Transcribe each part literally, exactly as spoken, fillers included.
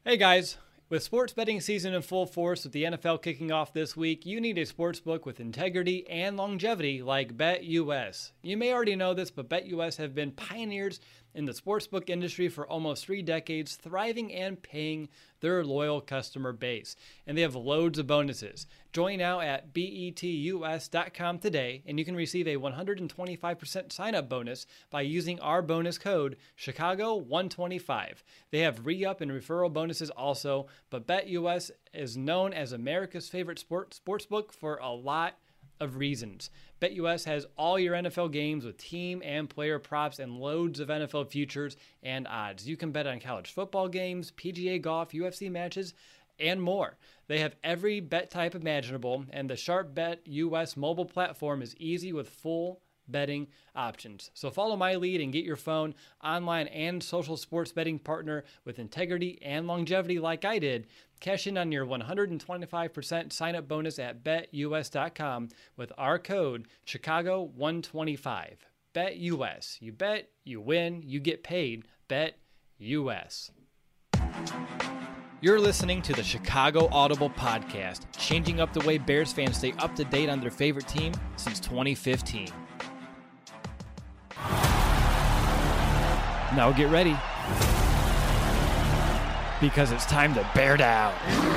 Hey guys, with sports betting season in full force with the N F L kicking off this week, you need a sportsbook with integrity and longevity like BetUS. You may already know this, but BetUS have been pioneers in the sportsbook industry for almost three decades, thriving and paying their loyal customer base. And they have loads of bonuses. Join now at betus dot com today, and you can receive a one hundred twenty-five percent sign-up bonus by using our bonus code Chicago one twenty-five. They have re-up and referral bonuses also, but BetUS is known as America's favorite sport sportsbook for a lot of reasons. BetUS has all your N F L games with team and player props and loads of N F L futures and odds. You can bet on college football games, P G A golf, U F C matches, and more. They have every bet type imaginable, and the Sharp Bet U S mobile platform is easy with full betting options. So follow my lead and get your phone, online, and social sports betting partner with integrity and longevity like I did. Cash in on your one hundred twenty-five percent sign-up bonus at betus dot com with our code Chicago one twenty-five. BetUS. You bet, you win, you get paid. BetUS. You're listening to the Chicago Audible Podcast, changing up the way Bears fans stay up to date on their favorite team since twenty fifteen. Now get ready, because it's time to bear down.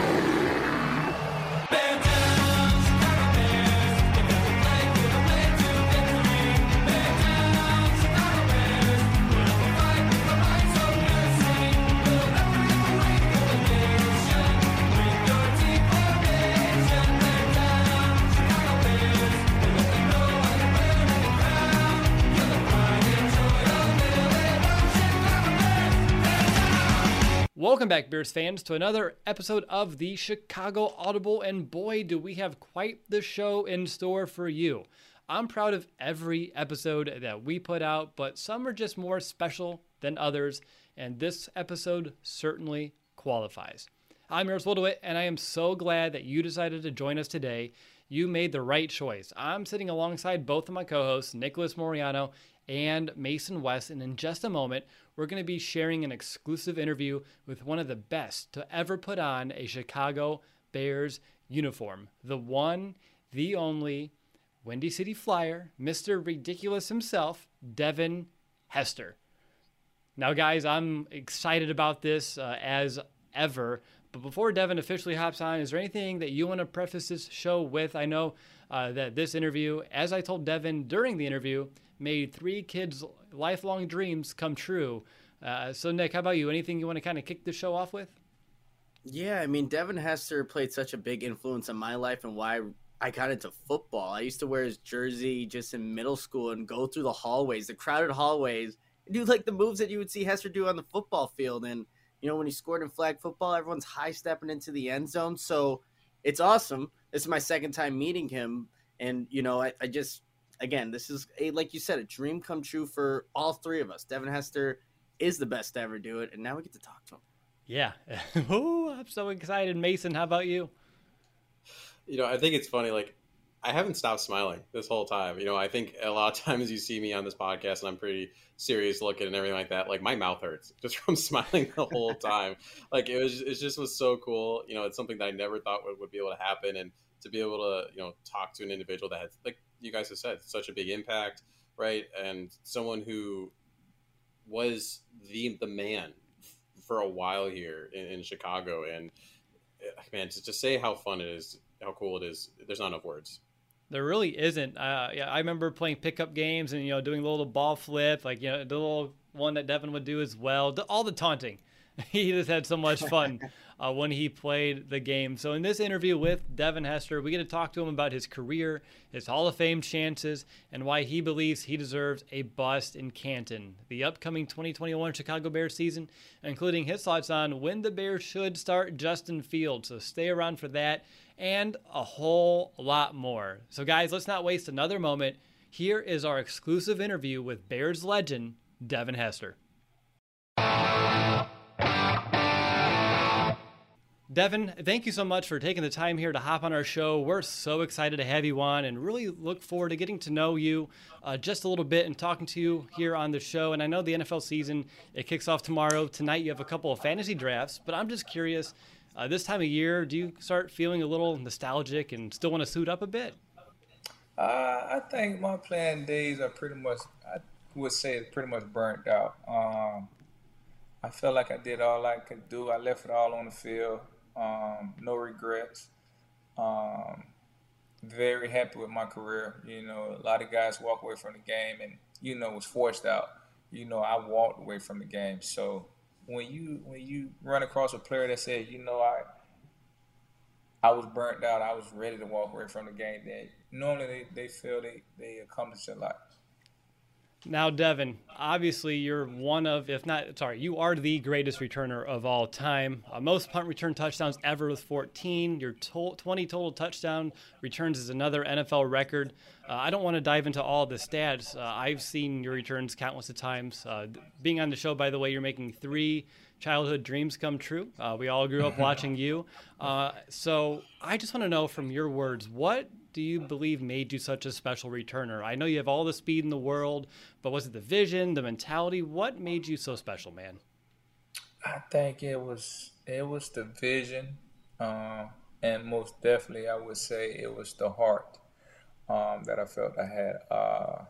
Welcome back, Bears fans, to another episode of the Chicago Audible, and boy, do we have quite the show in store for you. I'm proud of every episode that we put out, but some are just more special than others, and this episode certainly qualifies. I'm Earls Wildewit, and I am so glad that you decided to join us today. You made the right choice. I'm sitting alongside both of my co-hosts, Nicholas Moriano and Mason West, and in just a moment, we're going to be sharing an exclusive interview with one of the best to ever put on a Chicago Bears uniform. The one, the only, Windy City Flyer, Mister Ridiculous himself, Devin Hester. Now, guys, I'm excited about this uh, as ever. But before Devin officially hops on, is there anything that you want to preface this show with? I know uh, that this interview, as I told Devin during the interview, made three kids' lifelong dreams come true. Uh, so, Nick, how about you? Anything you want to kind of kick the show off with? Yeah, I mean, Devin Hester played such a big influence on my life and why I got into football. I used to wear his jersey just in middle school and go through the hallways, the crowded hallways, and do like the moves that you would see Hester do on the football field. And, you know, when he scored in flag football, everyone's high stepping into the end zone. So it's awesome. This is my second time meeting him. And, you know, I, I just, again, this is, a, like you said, a dream come true for all three of us. Devin Hester is the best to ever do it, and now we get to talk to him. Yeah. Ooh, I'm so excited. Mason, how about you? You know, I think it's funny, like, I haven't stopped smiling this whole time. You know, I think a lot of times you see me on this podcast and I'm pretty serious looking and everything like that. Like, my mouth hurts just from smiling the whole time. Like, it was, it just was so cool. You know, it's something that I never thought would, would be able to happen. And to be able to, you know, talk to an individual that had, like you guys have said, such a big impact, right? And someone who was the the man for a while here in, in Chicago. And, man, to just say how fun it is, how cool it is, there's not enough words. There really isn't. Uh, yeah, I remember playing pickup games and, you know, doing the little ball flip, like, you know, the little one that Devin would do as well. The, all the taunting. He just had so much fun uh, when he played the game. So in this interview with Devin Hester, we get to talk to him about his career, his Hall of Fame chances, and why he believes he deserves a bust in Canton. The upcoming twenty twenty-one Chicago Bears season, including his thoughts on when the Bears should start Justin Fields. So stay around for that and a whole lot more. So guys, let's not waste another moment. Here is our exclusive interview with Bears legend, Devin Hester. Devin, thank you so much for taking the time here to hop on our show. We're so excited to have you on and really look forward to getting to know you uh, just a little bit and talking to you here on the show. And I know the N F L season, it kicks off tomorrow. Tonight you have a couple of fantasy drafts, but I'm just curious, uh, this time of year, do you start feeling a little nostalgic and still want to suit up a bit? Uh, I think my playing days are pretty much, I would say, pretty much burnt out. Um, I felt like I did all I could do. I left it all on the field. Um, no regrets. Um, very happy with my career. You know, a lot of guys walk away from the game and, you know, was forced out. You know, I walked away from the game. So when you when you run across a player that says, you know, I I was burnt out, I was ready to walk away from the game, then normally they, they feel they, they accomplished a lot. Now, Devin, obviously you're one of, if not, sorry, you are the greatest returner of all time. Uh, most punt return touchdowns ever with fourteen. Your to- twenty total touchdown returns is another N F L record. Uh, I don't want to dive into all the stats. Uh, I've seen your returns countless of times. Uh, being on the show, by the way, you're making three childhood dreams come true. Uh, we all grew up watching you. Uh, so I just want to know from your words, what do you believe made you such a special returner? I know you have all the speed in the world, but was it the vision, the mentality? What made you so special, man? I think it was it was the vision, uh, and most definitely I would say it was the heart um, that I felt I had. Uh,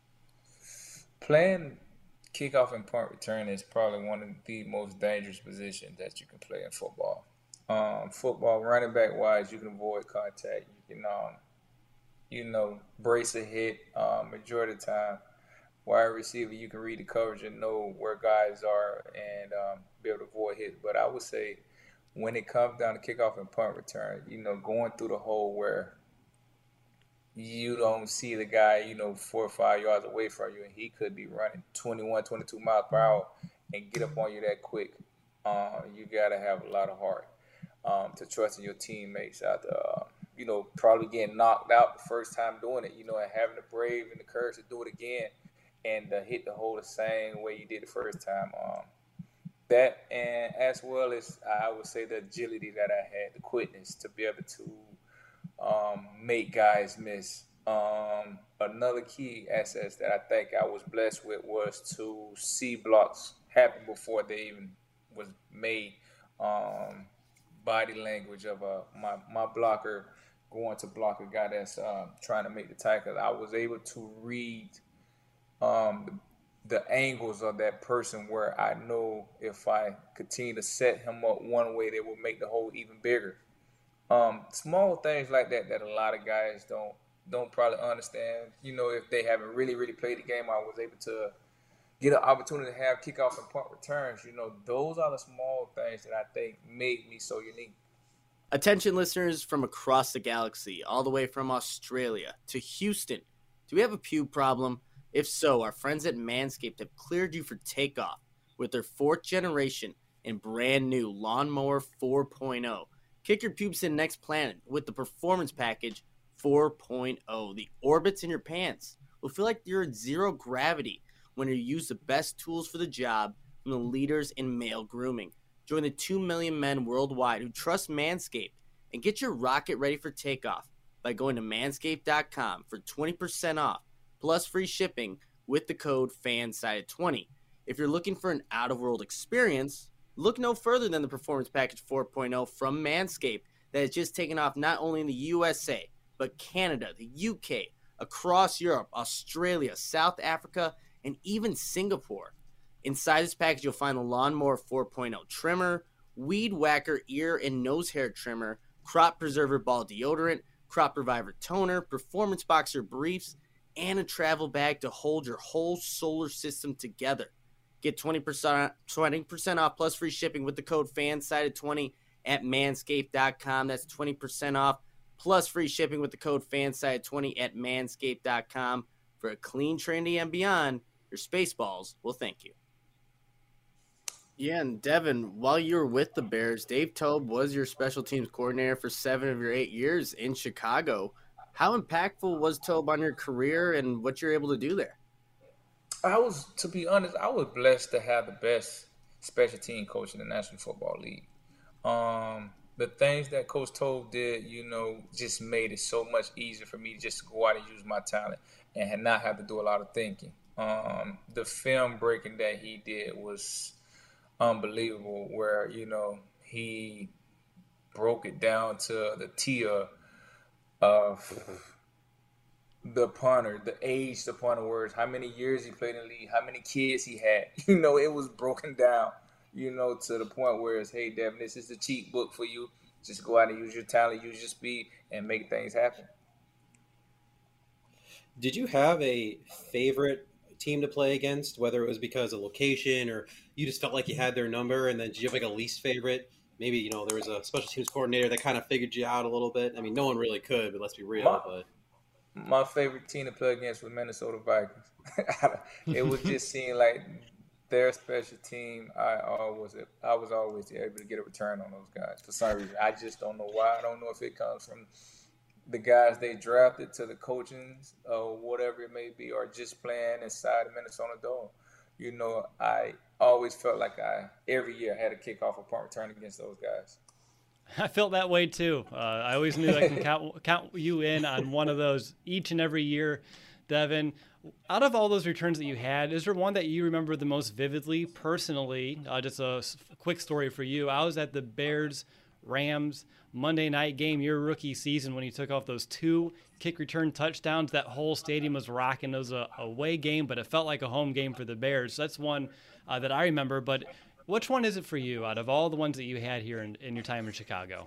playing kickoff and punt return is probably one of the most dangerous positions that you can play in football. Um, football, running back wise, you can avoid contact. You can, um, you know, brace a hit um, majority of the time. Wide receiver, you can read the coverage and know where guys are and um, be able to avoid hits. But I would say when it comes down to kickoff and punt return, you know, going through the hole where you don't see the guy, you know, four or five yards away from you, and he could be running twenty-one, twenty-two miles per hour and get up on you that quick. Uh, you got to have a lot of heart um, to trust in your teammates after, uh, you know, probably getting knocked out the first time doing it, you know, and having the brave and the courage to do it again and uh, hit the hole the same way you did the first time. Um, that, and as well as I would say the agility that I had, the quickness to be able to Um, make guys miss. Um, another key asset that I think I was blessed with was to see blocks happen before they even was made. Um, body language of uh, my, my blocker going to block a guy that's uh, trying to make the tackle. I was able to read um, the, the angles of that person where I know if I continue to set him up one way, they will make the hole even bigger. Um, small things like that that a lot of guys don't don't probably understand. You know, if they haven't really, really played the game, I was able to get an opportunity to have kickoff and punt returns. You know, those are the small things that I think made me so unique. Attention listeners from across the galaxy, all the way from Australia to Houston. Do we have a pube problem? If so, our friends at Manscaped have cleared you for takeoff with their fourth generation and brand new Lawnmower four point oh. Kick your pubes to the next planet with the Performance Package four point oh. The orbits in your pants will feel like you're at zero gravity when you use the best tools for the job from the leaders in male grooming. Join the two million men worldwide who trust Manscaped and get your rocket ready for takeoff by going to manscaped dot com for twenty percent off plus free shipping with the code FANSIDED twenty. If you're looking for an out-of-world experience, look no further than the Performance Package four point oh from Manscaped that has just taken off not only in the U S A, but Canada, the U K, across Europe, Australia, South Africa, and even Singapore. Inside this package, you'll find the Lawnmower four point oh trimmer, Weed Whacker ear and nose hair trimmer, Crop Preserver ball deodorant, Crop Reviver toner, Performance Boxer briefs, and a travel bag to hold your whole solar system together. Get twenty percent, twenty percent off plus free shipping with the code FANSIDED twenty at manscaped dot com. That's twenty percent off plus free shipping with the code FANSIDED twenty at manscaped dot com. For a clean, trendy, and beyond, your Spaceballs will thank you. Yeah, and Devin, while you were with the Bears, Dave Toub was your special teams coordinator for seven of your eight years in Chicago. How impactful was Toub on your career and what you're able to do there? I was, to be honest, I was blessed to have the best special team coach in the National Football League. Um, the things that Coach Toll did, you know, just made it so much easier for me just to go out and use my talent and had not have to do a lot of thinking. Um, the film breaking that he did was unbelievable, where, you know, he broke it down to the tier of the punter, the age the punter was, how many years he played in the league, how many kids he had. You know, it was broken down, you know, to the point where it's, hey, Devin, this is the cheat book for you. Just go out and use your talent, use your speed, and make things happen. Did you have a favorite team to play against, whether it was because of location or you just felt like you had their number? And then did you have like a least favorite? Maybe, you know, there was a special teams coordinator that kind of figured you out a little bit. I mean, no one really could, but let's be real. My, but my favorite team to play against was Minnesota Vikings. It was just seeing like their special team. I always, I was always able to get a return on those guys for some reason. I just don't know why. I don't know if it comes from the guys they drafted to the coaching or whatever it may be, or just playing inside the Minnesota Dome. You know, I always felt like I every year had a kickoff or punt return against those guys. I felt that way too. Uh, I always knew I can count count you in on one of those each and every year, Devin. Out of all those returns that you had, is there one that you remember the most vividly, personally? Uh, just a quick story for you. I was at the Bears Rams Monday night game your rookie season when you took off those two kick return touchdowns. That whole stadium was rocking. It was a away game, but it felt like a home game for the Bears. So that's one uh, that I remember. But which one is it for you out of all the ones that you had here in, in your time in Chicago?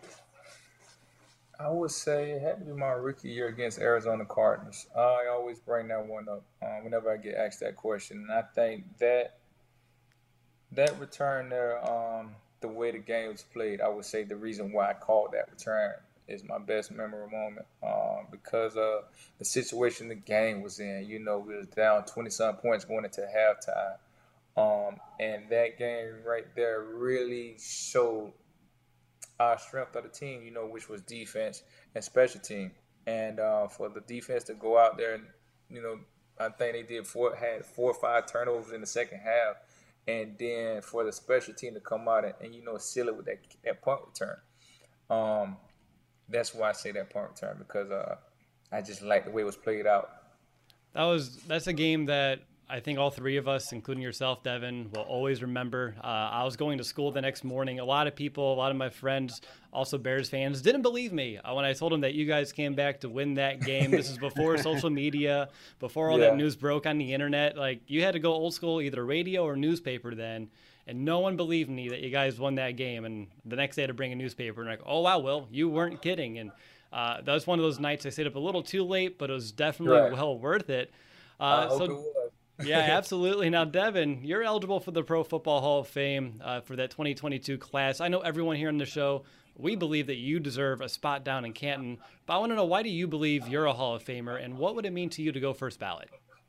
I would say it had to be my rookie year against Arizona Cardinals. I always bring that one up um, whenever I get asked that question. And I think that that return there, um, the way the game was played, I would say the reason why I called that return is my best memorable moment um, because of the situation the game was in. You know, we was down twenty-some points going into halftime. Um, and that game right there really showed our strength of the team, you know, which was defense and special team. And uh, for the defense to go out there and, you know, I think they did four, had four or five turnovers in the second half. And then for the special team to come out and, and you know, seal it with that, that punt return. Um, that's why I say that punt return, because uh, I just like the way it was played out. That was that's a game that I think all three of us, including yourself, Devin, will always remember. Uh, I was going to school the next morning. A lot of people, a lot of my friends, also Bears fans, didn't believe me uh, when I told them that you guys came back to win that game. This is before social media, before all Yeah. that news broke on the internet. Like, you had to go old school, either radio or newspaper then, and no one believed me that you guys won that game. And the next day I had to bring a newspaper, and like, oh, wow, Will, you weren't kidding. And uh, that was one of those nights I stayed up a little too late, but it was definitely Right. well worth it. I Uh, hope so. it was. Yeah, absolutely. Now, Devin, you're eligible for the Pro Football Hall of Fame uh, for that twenty twenty-two class. I know everyone here on the show, we believe that you deserve a spot down in Canton, but I want to know, why do you believe you're a Hall of Famer, and what would it mean to you to go first ballot?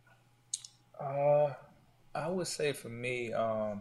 Uh, I would say for me, um,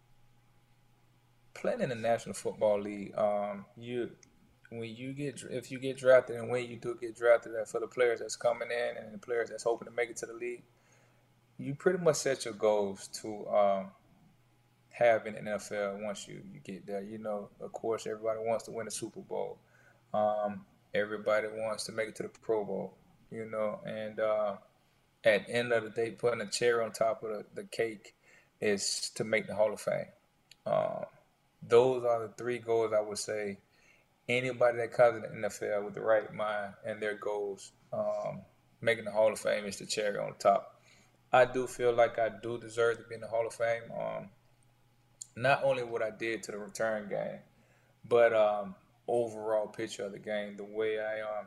playing in the National Football League, um, you when you get if you get drafted and when you do get drafted, and for the players that's coming in and the players that's hoping to make it to the league, you pretty much set your goals to um, have in the N F L once you, you get there. You know, of course, everybody wants to win a Super Bowl. Um, everybody wants to make it to the Pro Bowl, you know, and uh, at the end of the day, putting a cherry on top of the, the cake is to make the Hall of Fame. Um, those are the three goals I would say anybody that comes in the N F L with the right mind and their goals, um, making the Hall of Fame is the cherry on top. I do feel like I do deserve to be in the Hall of Fame. Um, not only what I did to the return game, but um, overall picture of the game, the way I um,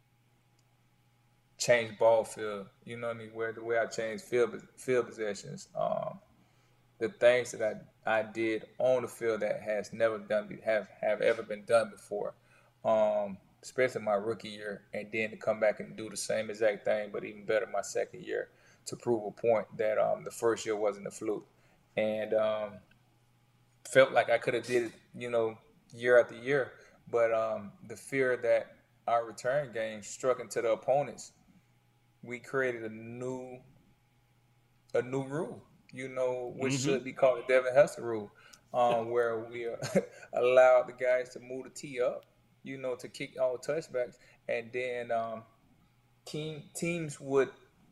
changed ball field, you know what I mean, where the way I changed field field possessions, um, the things that I, I did on the field that has never done have have ever been done before, um, especially my rookie year, and then to come back and do the same exact thing, but even better my second year, to prove a point that um, the first year wasn't a fluke. And um, felt like I could have did it, you know, year after year. But um, the fear that our return game struck into the opponents, we created a new a new rule, you know, which mm-hmm. should be called the Devin Hester rule. um, where we uh, allowed the guys to move the tee up, you know, to kick all touchbacks, and then um, team teams would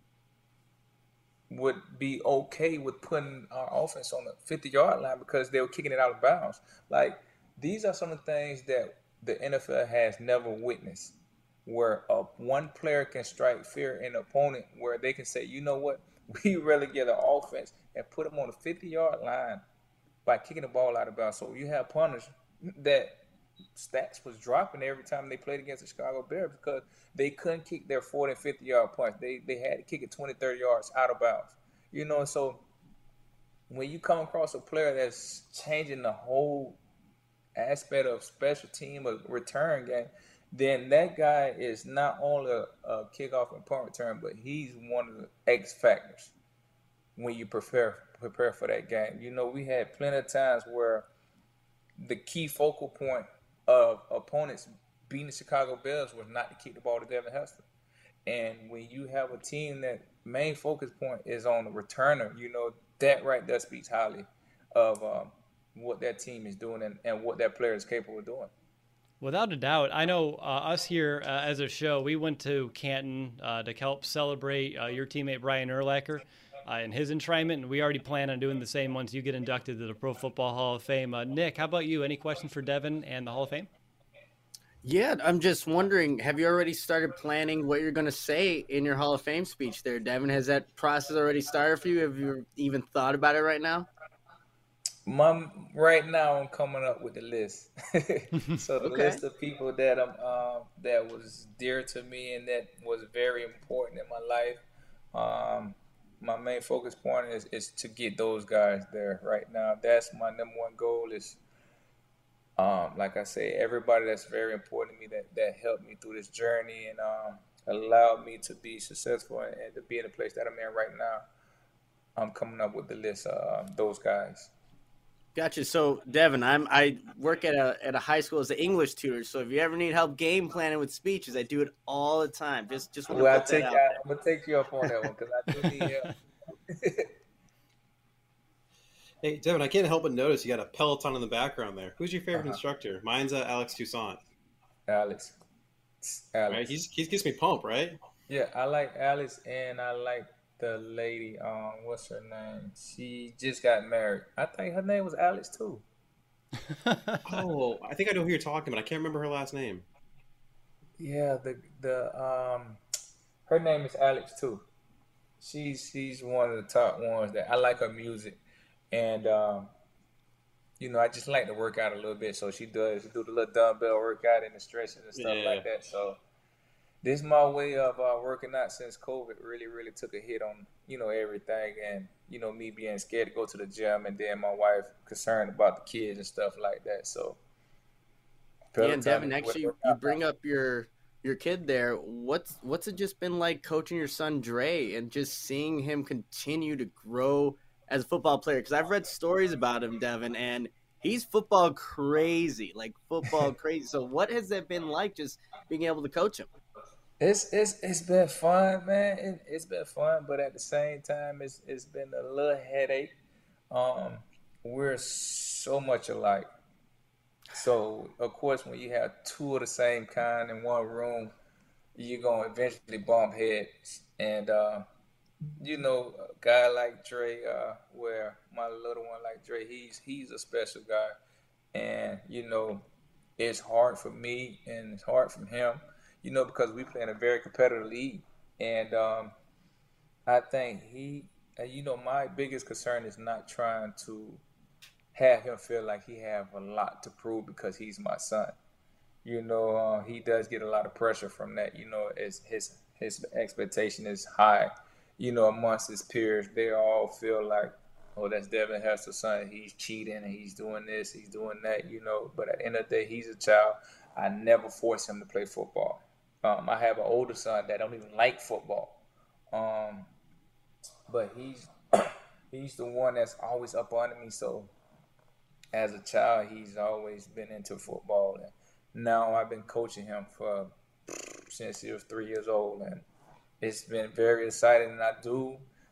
would be okay with putting our offense on the fifty yard line because they were kicking it out of bounds. Like, these are some of the things that the N F L has never witnessed, where a, one player can strike fear in an opponent, where they can say, you know what, we relegate the offense and put them on the fifty yard line by kicking the ball out of bounds. So you have punters that stats was dropping every time they played against the Chicago Bears because they couldn't kick their forty and fifty yard punts. They they had to kick it twenty, thirty yards out of bounds. You know, so when you come across a player that's changing the whole aspect of special team or return game, then that guy is not only a, a kickoff and punt return, but he's one of the X factors when you prepare prepare for that game. You know, we had plenty of times where the key focal point of opponents beating the Chicago Bears was not to kick the ball to Devin Hester. And when you have a team that main focus point is on the returner, you know, that right there speaks highly of um, what that team is doing and, and what that player is capable of doing. Without a doubt. I know uh, us here uh, as a show, we went to Canton uh, to help celebrate uh, your teammate Brian Urlacher uh, and his enshrinement, and we already plan on doing the same once you get inducted to the Pro Football Hall of Fame. Uh, Nick, how about you? Any questions for Devin and the Hall of Fame? Yeah, I'm just wondering, have you already started planning what you're going to say in your Hall of Fame speech there, Devin? Has that process already started for you? Have you even thought about it right now? My, right now, I'm coming up with the list. So the Okay. list of people that I'm um, that was dear to me and that was very important in my life. Um, my main focus point is, is to get those guys there right now. That's my number one goal. Is um, like I say, everybody that's very important to me that that helped me through this journey and um, allowed me to be successful and, and to be in the place that I'm in right now. I'm coming up with the list of um, those guys. Gotcha. So, Devin, I'm I work at a at a high school as an English tutor. So, if you ever need help game planning with speeches, I do it all the time. Just just want to Well, I put take that out I, there. I'm gonna take you up on that one because I do need help. Hey, Devin, I can't help but notice you got a Peloton in the background there. Who's your favorite Uh-huh. instructor? Mine's uh, Alex Toussaint. Alex. Alex. Right? He's, he gets me pumped, right? Yeah, I like Alex and I like the lady. Um, what's her name? She just got married. I think her name was Alex too. Oh, I think I know who you're talking about. I can't remember her last name. Yeah, the the um, her name is Alex too. She's she's one of the top ones that I like her music, and um, you know I just like to work out a little bit. So she does she do the little dumbbell workout and the stretching and stuff Yeah. like that. So this is my way of uh, working out since COVID really really took a hit on you know everything, and you know me being scared to go to the gym, and then my wife concerned about the kids and stuff like that. So Yeah, Peloton and Devin, is actually, what- you bring up your your kid there. What's what's it just been like coaching your son Dre and just seeing him continue to grow as a football player? Because I've read stories about him, Devin, and he's football crazy, like football crazy. So, what has that been like, just being able to coach him? It's it's it's been fun, man. It, it's been fun, but at the same time, it's it's been a little headache. Um, we're so much alike. So of course, when you have two of the same kind in one room, you're gonna eventually bump heads. And uh, you know, a guy like Dre, uh, where my little one like Dre, he's he's a special guy, and you know, it's hard for me and it's hard for him, you know, because we play in a very competitive league, and um, I think he, uh, you know, my biggest concern is not trying to have him feel like he have a lot to prove because he's my son. You know, uh, he does get a lot of pressure from that. You know, as his his expectation is high. You know, amongst his peers, they all feel like, oh, that's Devin Hester's son. He's cheating and he's doing this, he's doing that. You know, but at the end of the day, he's a child. I never force him to play football. Um, I have an older son that don't even like football, um, but he's he's the one that's always up under me. So as a child, he's always been into football, and now I've been coaching him for since he was three years old, and it's been very exciting. And I do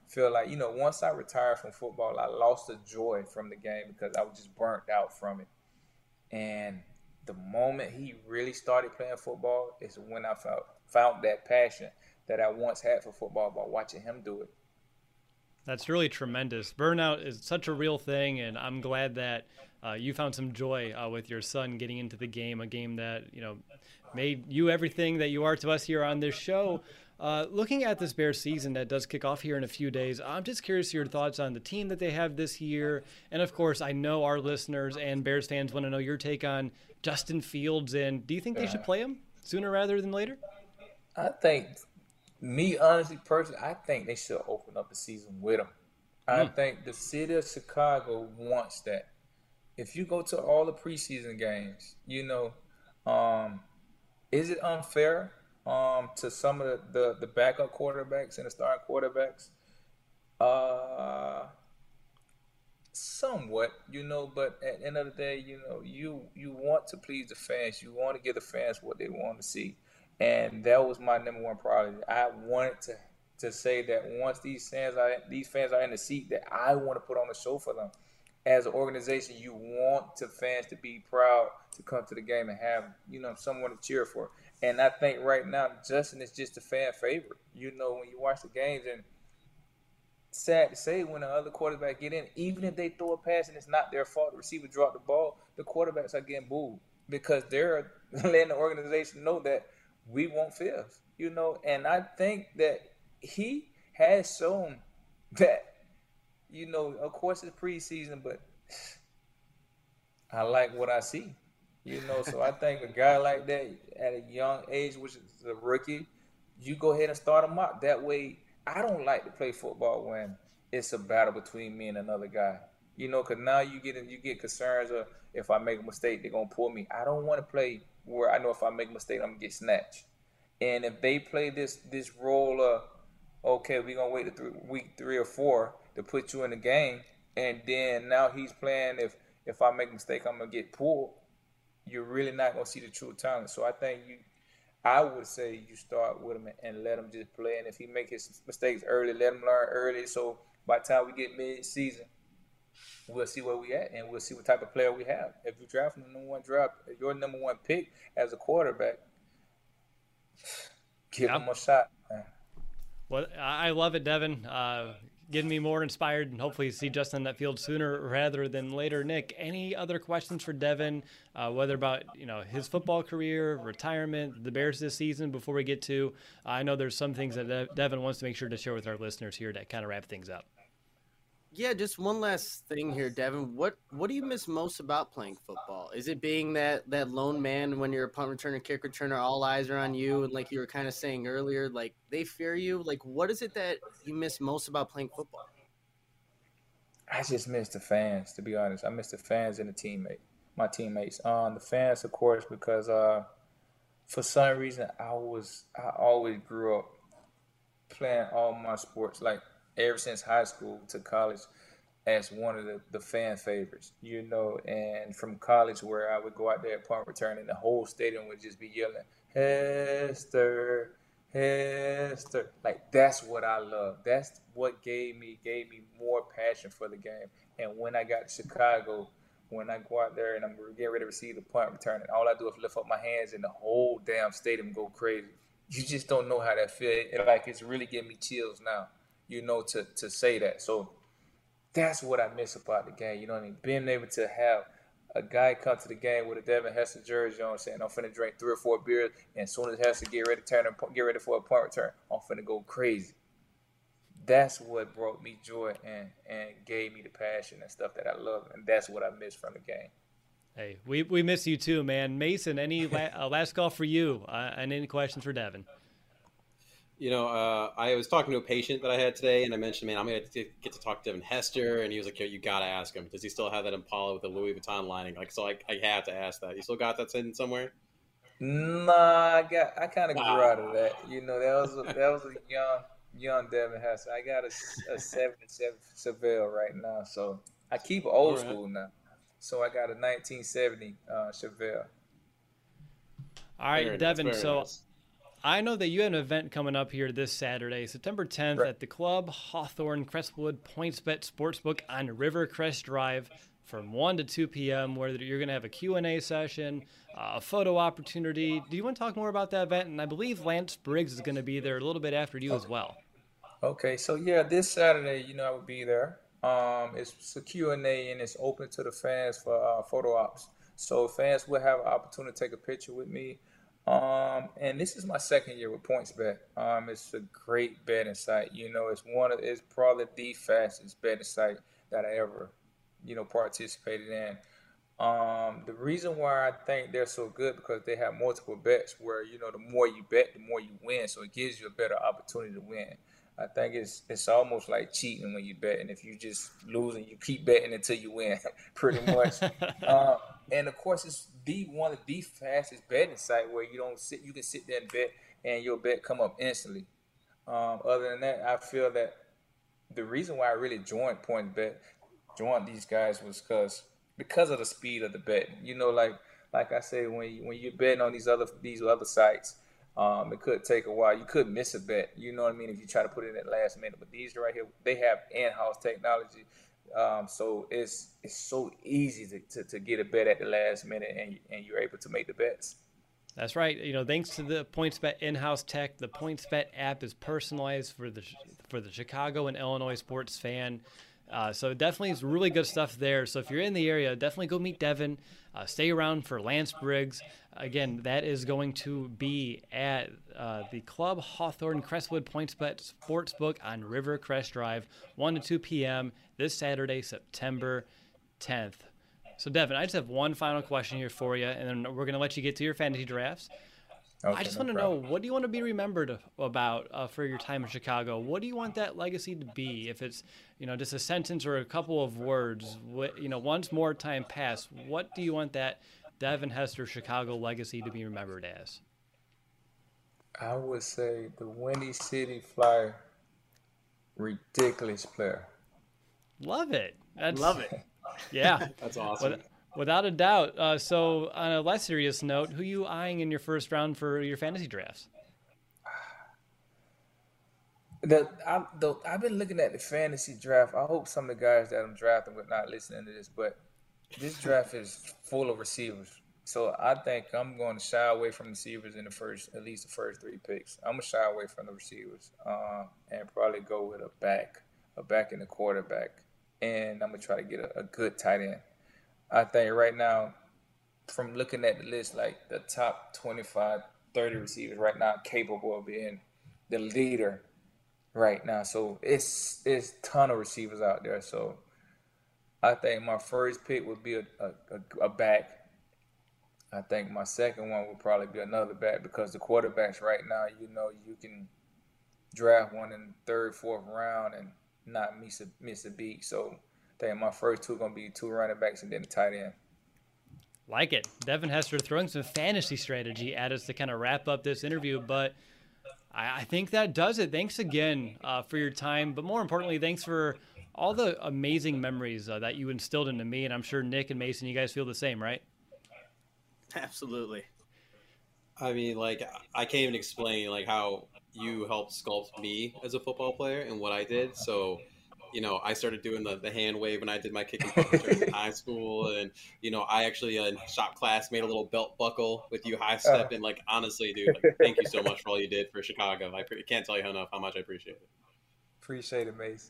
feel like, you know, once I retired from football, I lost the joy from the game because I was just burnt out from it. And the moment he really started playing football is when I found, found that passion that I once had for football by watching him do it. That's really tremendous. Burnout is such a real thing, and I'm glad that uh, you found some joy uh, with your son getting into the game, a game that, you know, made you everything that you are to us here on this show. Uh, looking at this Bears season that does kick off here in a few days, I'm just curious your thoughts on the team that they have this year. And, of course, I know our listeners and Bears fans want to know your take on Justin Fields. And do you think they should play him sooner rather than later? I think, me honestly, personally, I think they should open up the season with him. I mm. think the city of Chicago wants that. If you go to all the preseason games, you know, um, is it unfair um, to some of the, the, the backup quarterbacks and the starting quarterbacks? Uh, somewhat, you know, but at the end of the day, you know, you, you want to please the fans. You want to give the fans what they want to see. And that was my number one priority. I wanted to, to say that once these fans are these fans are in the seat, that I want to put on a show for them. As an organization, you want the fans to be proud to come to the game and have, you know, someone to cheer for. And I think right now, Justin is just a fan favorite. You know, when you watch the games, and sad to say, when the other quarterback get in, even if they throw a pass and it's not their fault, the receiver dropped the ball, the quarterbacks are getting booed because they're letting the organization know that we want fifth, you know, and I think that he has shown that, you know, of course it's preseason, but I like what I see, you know, so I think a guy like that at a young age, which is a rookie, you go ahead and start him out. That way, I don't like to play football when it's a battle between me and another guy, you know, because now you get you get concerns of if I make a mistake, they're going to pull me. I don't want to play where I know if I make a mistake, I'm going to get snatched. And if they play this this role of, okay, we're going to wait to three, week three or four to put you in the game, and then now he's playing, if if I make a mistake, I'm going to get pulled, you're really not going to see the true talent. So I think you, I would say you start with him and let him just play. And if he make his mistakes early, let him learn early. So by the time we get mid-season, we'll see where we at, and we'll see what type of player we have. If you draft the number one draft, your number one pick as a quarterback, give yep. him a shot, man. Well, I love it, Devin. Uh, getting me more inspired, and hopefully see Justin in that field sooner rather than later. Nick, any other questions for Devin, uh, whether about, you know, his football career, retirement, the Bears this season, before we get to, uh, I know there's some things that De- Devin wants to make sure to share with our listeners here to kind of wrap things up. Yeah, just one last thing here, Devin. What what do you miss most about playing football? Is it being that, that lone man when you're a punt returner, kick returner, all eyes are on you, and like you were kind of saying earlier, like they fear you? Like, what is it that you miss most about playing football? I just miss the fans, to be honest. I miss the fans and the teammate, my teammates. Um, the fans, of course, because uh, for some reason I was I always grew up playing all my sports, like ever since high school to college, as one of the, the fan favorites, you know, and from college where I would go out there at punt return and the whole stadium would just be yelling, Hester, Hester. Like, that's what I love. That's what gave me, gave me more passion for the game. And when I got to Chicago, when I go out there and I'm getting ready to receive the punt return, and all I do is lift up my hands and the whole damn stadium go crazy. You just don't know how that feels. Like, it's really giving me chills now, you know, to, to say that. So that's what I miss about the game. You know what I mean? Being able to have a guy come to the game with a Devin Hester jersey, you know what I'm saying? I'm finna drink three or four beers, and as soon as Hester get ready to turn and get ready for a punt return, I'm finna go crazy. That's what brought me joy and, and gave me the passion and stuff that I love, and that's what I miss from the game. Hey, we, we miss you too, man. Mason, any la- uh, last call for you, uh, and any questions for Devin? You know, uh, I was talking to a patient that I had today, and I mentioned, man, I'm going to get to talk to Devin Hester, and he was like, yo, you got to ask him. Does he still have that Impala with the Louis Vuitton lining? Like, so I, I have to ask that. You still got that sitting somewhere? Nah, I got, I kind of grew ah. out of that. You know, that was a, that was a young, young Devin Hester. I got a, a seventy-seven Chevelle right now, so I keep old right. school now. So I got a nineteen seventy uh, Chevelle. All right, very Devin, so nice. I know that you have an event coming up here this Saturday, September tenth, right, at the Club Hawthorne Crestwood PointsBet Sportsbook on Rivercrest Drive from one to two p.m., where you're going to have a Q and A session, uh, a photo opportunity. Do you want to talk more about that event? And I believe Lance Briggs is going to be there a little bit after you okay. as well. Okay, so yeah, this Saturday, you know, I will be there. Um, it's a Q and A, and it's open to the fans for uh, photo ops. So fans will have an opportunity to take a picture with me. Um, and this is my second year with PointsBet. Um, it's a great betting site. You know, it's one of, it's probably the fastest betting site that I ever, you know, participated in. Um, the reason why I think they're so good because they have multiple bets where, you know, the more you bet, the more you win. So it gives you a better opportunity to win. I think it's it's almost like cheating when you bet, and if you just lose and you keep betting until you win, pretty much. uh, and of course, it's the one of the fastest betting site where you don't sit, you can sit there and bet, and your bet come up instantly. Um, other than that, I feel that the reason why I really joined PointsBet, joined these guys was because because of the speed of the betting. You know, like like I say, when you, when you're betting on these other these other sites. Um, it could take a while. You could miss a bet. You know what I mean? If you try to put it in at last minute. But these right here, they have in-house technology. Um, so it's it's so easy to, to, to get a bet at the last minute, and, and you're able to make the bets. That's right. You know, thanks to the PointsBet in-house tech, the PointsBet app is personalized for the for the Chicago and Illinois sports fan. Uh, so definitely is really good stuff there. So if you're in the area, definitely go meet Devin. Uh, stay around for Lance Briggs. Again, that is going to be at uh, the Club Hawthorne Crestwood PointsBet Sportsbook on Rivercrest Drive, one to two p.m. this Saturday, September tenth. So, Devin, I just have one final question here for you, and then we're going to let you get to your fantasy drafts. Okay, I just no want to problem. know, what do you want to be remembered about uh, for your time in Chicago? What do you want that legacy to be? If it's, you know, just a sentence or a couple of words, what, you know, once more time passed, what do you want that Devin Hester Chicago legacy to be remembered as? I would say the Windy City Flyer ridiculous player. Love it. That's, Love it. Yeah. That's awesome. With, without a doubt. Uh, so on a less serious note, who are you eyeing in your first round for your fantasy drafts? The, I, the, I've been looking at the fantasy draft. I hope some of the guys that I'm drafting would not listening to this, but this draft is full of receivers. So I think I'm going to shy away from receivers in the first, at least the first three picks. I'm going to shy away from the receivers uh, and probably go with a back, a back in the quarterback. And I'm going to try to get a, a good tight end. I think right now, from looking at the list, like the top twenty-five, thirty receivers right now capable of being the leader right now. So it's it's a ton of receivers out there. So I think my first pick would be a, a, a back. I think my second one would probably be another back because the quarterbacks right now, you know, you can draft one in the third, fourth round and not miss a, miss a beat. So I think my first two are going to be two running backs and then a tight end. Like it. Devin Hester throwing some fantasy strategy at us to kind of wrap up this interview, but I, I think that does it. Thanks again uh, for your time, but more importantly, thanks for all the amazing memories uh, that you instilled into me, and I'm sure Nick and Mason, you guys feel the same, right? Absolutely. I mean, like, I can't even explain, like, how you helped sculpt me as a football player and what I did. So, you know, I started doing the, the hand wave when I did my kick and punch in high school. And, you know, I actually, uh, in shop class, made a little belt buckle with you high step. And, like, honestly, dude, like, thank you so much for all you did for Chicago. I pre- can't tell you enough how much I appreciate it. Appreciate it, Mace.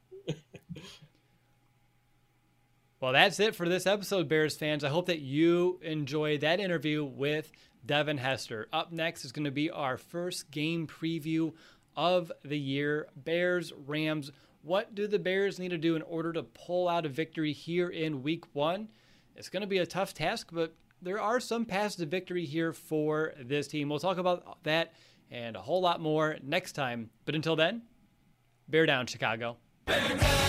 Well, that's it for this episode, Bears fans. I hope that you enjoyed that interview with Devin Hester. Up next is going to be our first game preview of the year. Bears, Rams. What do the Bears need to do in order to pull out a victory here in week one? It's going to be a tough task, but there are some paths to victory here for this team. We'll talk about that and a whole lot more next time. But until then, bear down, Chicago. Bear down.